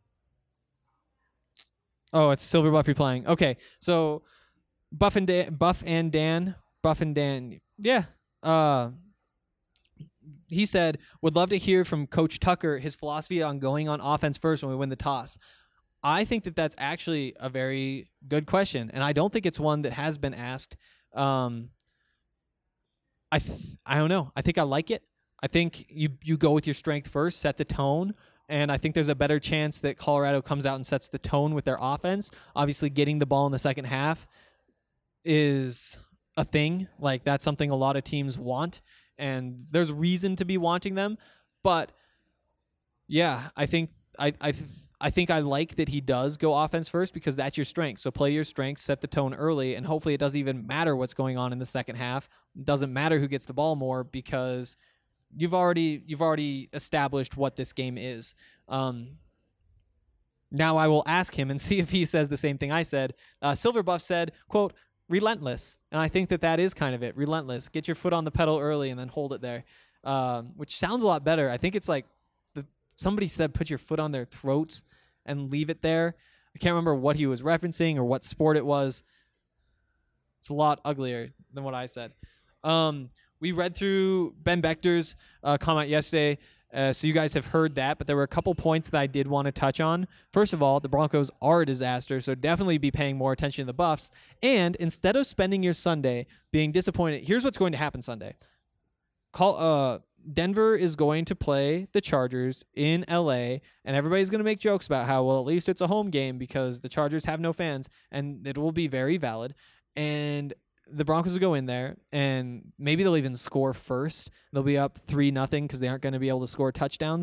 Speaker 6: oh, it's Silver Buff replying. Okay, so Buff and Dan, Buff and Dan, Buff and Dan, yeah, uh, he said, would love to hear from Coach Tucker his philosophy on going on offense first when we win the toss. I think that that's actually a very good question, and I don't think it's one that has been asked. Um, I th- I don't know. I think I like it. I think you, you go with your strength first, set the tone, and I think there's a better chance that Colorado comes out and sets the tone with their offense. Obviously, getting the ball in the second half is a thing. Like, that's something a lot of teams want, and there's reason to be wanting them. But yeah, I think I I I think I like that he does go offense first, because that's your strength. So play your strength, set the tone early, and hopefully it doesn't even matter what's going on in the second half. It doesn't matter who gets the ball more, because you've already you've already established what this game is. Um, now I will ask him and see if he says the same thing I said. Uh, Silverbuff said, quote, relentless. And I think that that is kind of it. Relentless. Get your foot on the pedal early and then hold it there, um, which sounds a lot better. I think it's like the, somebody said put your foot on their throats and leave it there. I can't remember what he was referencing or what sport it was. It's a lot uglier than what I said. Um, we read through Ben Bechter's uh, comment yesterday, uh, so you guys have heard that, but there were a couple points that I did want to touch on. First of all, the Broncos are a disaster, so definitely be paying more attention to the Buffs. And instead of spending your Sunday being disappointed, here's what's going to happen Sunday. Call, uh, Denver is going to play the Chargers in L A, and everybody's going to make jokes about how, well, at least it's a home game because the Chargers have no fans, and it will be very valid. And the Broncos will go in there, and maybe they'll even score first. They'll be up three nothing because they aren't going to be able to score touchdowns.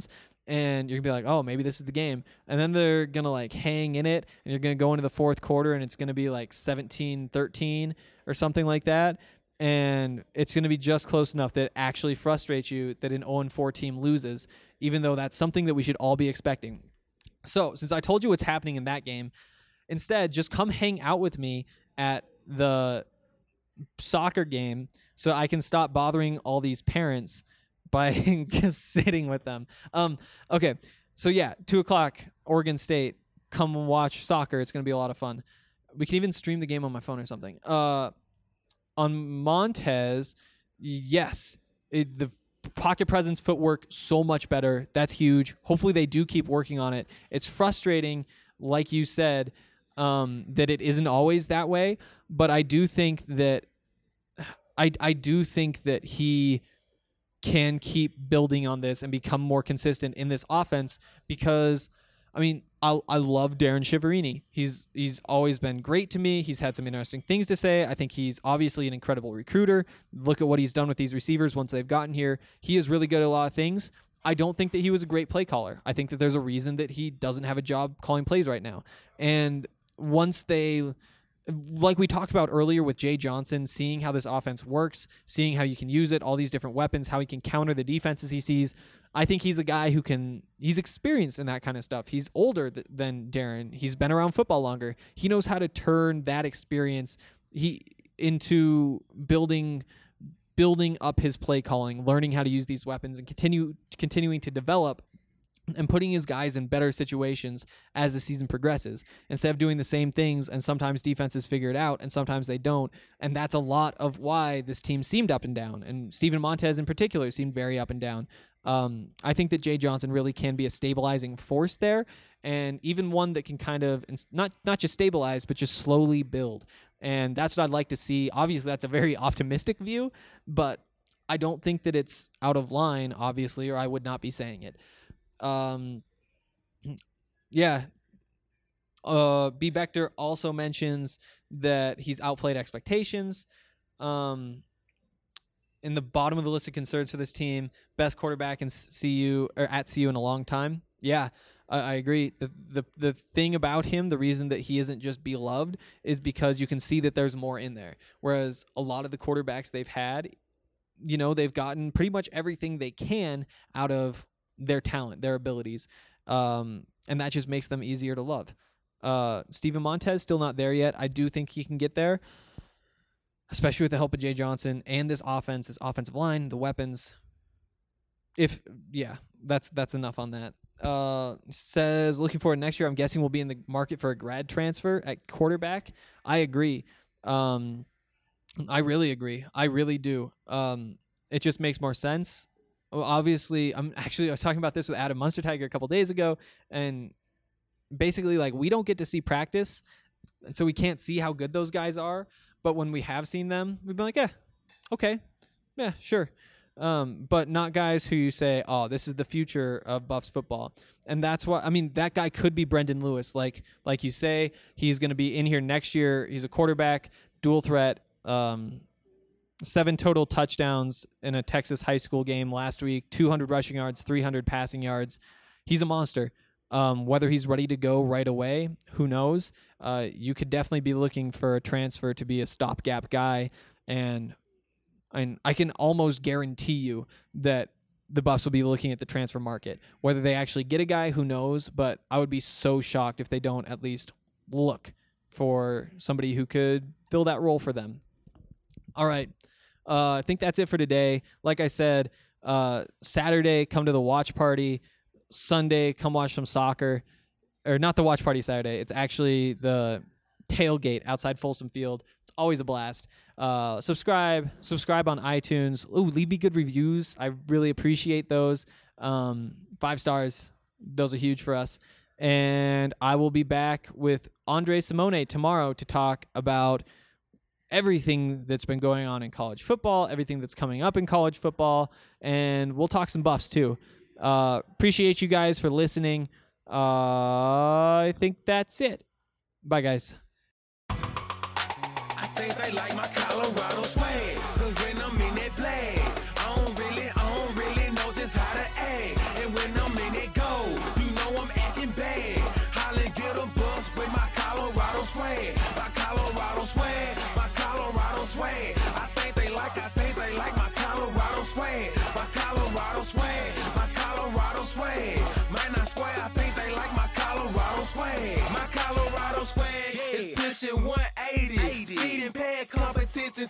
Speaker 6: and you're gonna be like, oh, maybe this is the game. And then they're gonna like hang in it, and you're gonna go into the fourth quarter, and it's gonna be like seventeen thirteen or something like that. And it's gonna be just close enough that it actually frustrates you that an oh and four team loses, even though that's something that we should all be expecting. So since I told you what's happening in that game, instead just come hang out with me at the soccer game so I can stop bothering all these parents by just sitting with them. Um, okay, so yeah, two o'clock, Oregon State. Come watch soccer. It's going to be a lot of fun. We can even stream the game on my phone or something. Uh, on Montez, yes, it, the pocket presence, footwork, so much better. That's huge. Hopefully they do keep working on it. It's frustrating, like you said, um, that it isn't always that way, but I do think that I I do think that he can keep building on this and become more consistent in this offense because, I mean, I I love Darren Shiverini. He's he's always been great to me. He's had some interesting things to say. I think he's obviously an incredible recruiter. Look at what he's done with these receivers once they've gotten here. He is really good at a lot of things. I don't think that he was a great play caller. I think that there's a reason that he doesn't have a job calling plays right now. And once they... like we talked about earlier with Jay Johnson, seeing how this offense works, seeing how you can use it, all these different weapons, how he can counter the defenses he sees. I think he's a guy who can, he's experienced in that kind of stuff. He's older th- than Darren. He's been around football longer. He knows how to turn that experience he into building building up his play calling, learning how to use these weapons and continue continuing to develop and putting his guys in better situations as the season progresses instead of doing the same things. And sometimes defenses figure it out and sometimes they don't. And that's a lot of why this team seemed up and down. And Steven Montez in particular seemed very up and down. Um, I think that Jay Johnson really can be a stabilizing force there, and even one that can kind of not, not just stabilize, but just slowly build. And that's what I'd like to see. Obviously that's a very optimistic view, but I don't think that it's out of line, obviously, or I would not be saying it. Um, yeah. Uh, B. Bechter also mentions that he's outplayed expectations. Um, in the bottom of the list of concerns for this team, best quarterback in C U or at C U in a long time. Yeah, I, I agree. The, the the thing about him, the reason that he isn't just beloved is because you can see that there's more in there. Whereas a lot of the quarterbacks they've had, you know, they've gotten pretty much everything they can out of their talent, their abilities, um, and that just makes them easier to love. Uh, Steven Montez still not there yet. I do think he can get there, especially with the help of Jay Johnson and this offense, this offensive line, the weapons. If yeah, that's that's enough on that. Uh, says looking forward to next year. I'm guessing we'll be in the market for a grad transfer at quarterback. I agree. Um, I really agree. I really do. Um, it just makes more sense. Well, obviously, I'm actually, I was talking about this with Adam Munstertiger a couple days ago, and basically, like, we don't get to see practice, and so we can't see how good those guys are, but when we have seen them, we've been like, yeah, okay, yeah, sure, um, but not guys who you say, oh, this is the future of Buffs football, and that's why, I mean, that guy could be Brendan Lewis, like, like you say, he's going to be in here next year, he's a quarterback, dual threat, um, seven total touchdowns in a Texas high school game last week, two hundred rushing yards, three hundred passing yards. He's a monster. Um, whether he's ready to go right away, who knows? Uh, you could definitely be looking for a transfer to be a stopgap guy, and and I can almost guarantee you that the Buffs will be looking at the transfer market. Whether they actually get a guy, who knows? But I would be so shocked if they don't at least look for somebody who could fill that role for them. All right. Uh, I think that's it for today. Like I said, uh, Saturday, come to the watch party. Sunday, come watch some soccer. Or not the watch party Saturday. It's actually the tailgate outside Folsom Field. It's always a blast. Uh, subscribe. Subscribe on iTunes. Ooh, leave me good reviews. I really appreciate those. Um, five stars. Those are huge for us. And I will be back with Andre Simone tomorrow to talk about everything that's been going on in college football, everything that's coming up in college football, and we'll talk some Buffs too. Uh, appreciate you guys for listening. Uh, I think that's it. Bye, guys.
Speaker 5: I think they like my Colorado swag, 'cause when I'm in that play, I don't really, I don't really know just how to act, and when I'm in it,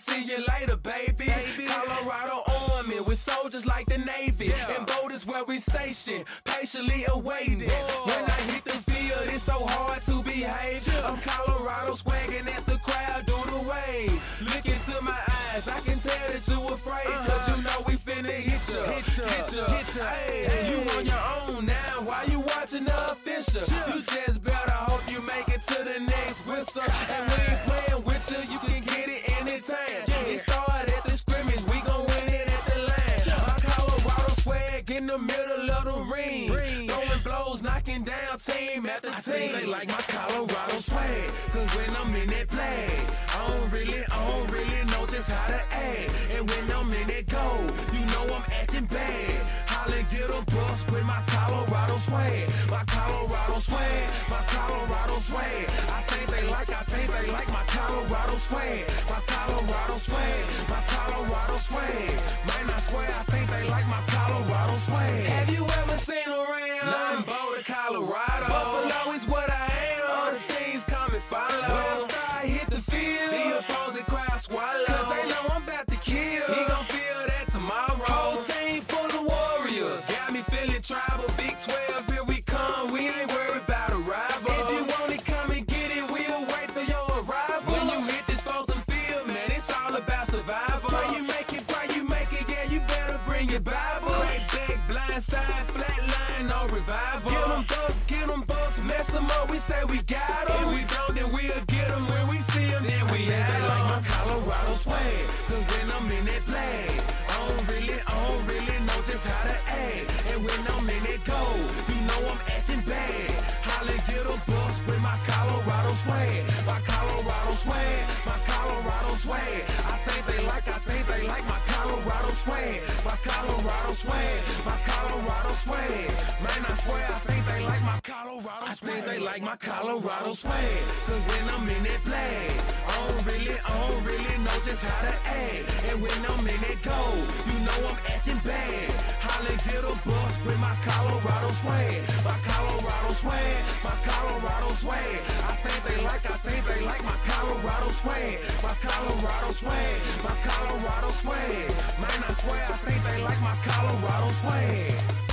Speaker 5: see you later, baby. baby. Colorado Army with soldiers like the Navy. Yeah. And boat is where we station, patiently awaiting. Whoa. When I hit the field, it's so hard to behave. Yeah. I'm Colorado swagging as the crowd do the wave. Look into my eyes, I can tell that you afraid. Uh-huh. Cause you know we finna hit ya, hit ya, hit ya, hit ya. Hey, hey. You on your own now, why you watching the official? Yeah. You just better hope you make it to the next whistle. And we ain't playing with you, you can get it anytime. Yeah. It started at the scrimmage, we gon' win it at the line. Yeah. My Colorado swag in the middle of the ring. ring. Throwing blows, knocking down team after team. I think they like my Colorado swag, cause when I'm in that play, I don't really, I don't really know just how to act. And when I'm in that goal, you know I'm acting bad. Holla, get a bus with my Colorado swag. My Colorado swag, my Colorado swag. I think they like, I think they like my Colorado swag. My Colorado swag, my Colorado swag. Man, I swear, I think they like my Colorado swag. Have you ever seen around? Nah, I'm Boulder, Colorado. Buffalo is what I am. All the teams come and follow. When I start hit the field, the opposing crowd swallow. Cause they know I'm about to kill. He gon' feel that tomorrow. Whole team full of warriors. Got me feeling tribal. Big twelve, here we come. We ain't worried about a rival. If you want it, come and get it. We'll wait for your arrival. When you hit this frozen field, man, it's all about survival. Pray you make it, pray you make it. Yeah, you better bring your Bible. Crack back, blind side, flat line, no revival. Get them bucks, get them bucks, mess them up. We say we got them. If we don't, then we'll get them. When we see them, then we have them. Like my Colorado swag, cause when I'm in that play, I don't really, I don't really know just how to act. And when I'm in that goal, you know I'm acting bad. Holla, get a bus with my Colorado swag. My Colorado swag, my Colorado swag. I think they like, I think they like my Colorado swag. My Colorado swag, my Colorado swag. Man, I swear, I think they like my Colorado swag. I think they like my Colorado swag. Cause when I'm in that play, I don't really, I don't really know just how to act. And when I'm in that goal, you know I'm acting bad. Holla, get a bus with my Colorado swag. My Colorado swag, my Colorado swag. I think they like, I think they like my Colorado swag. My Colorado swag, my Colorado swag. Man, I swear, I think they like my Colorado swag.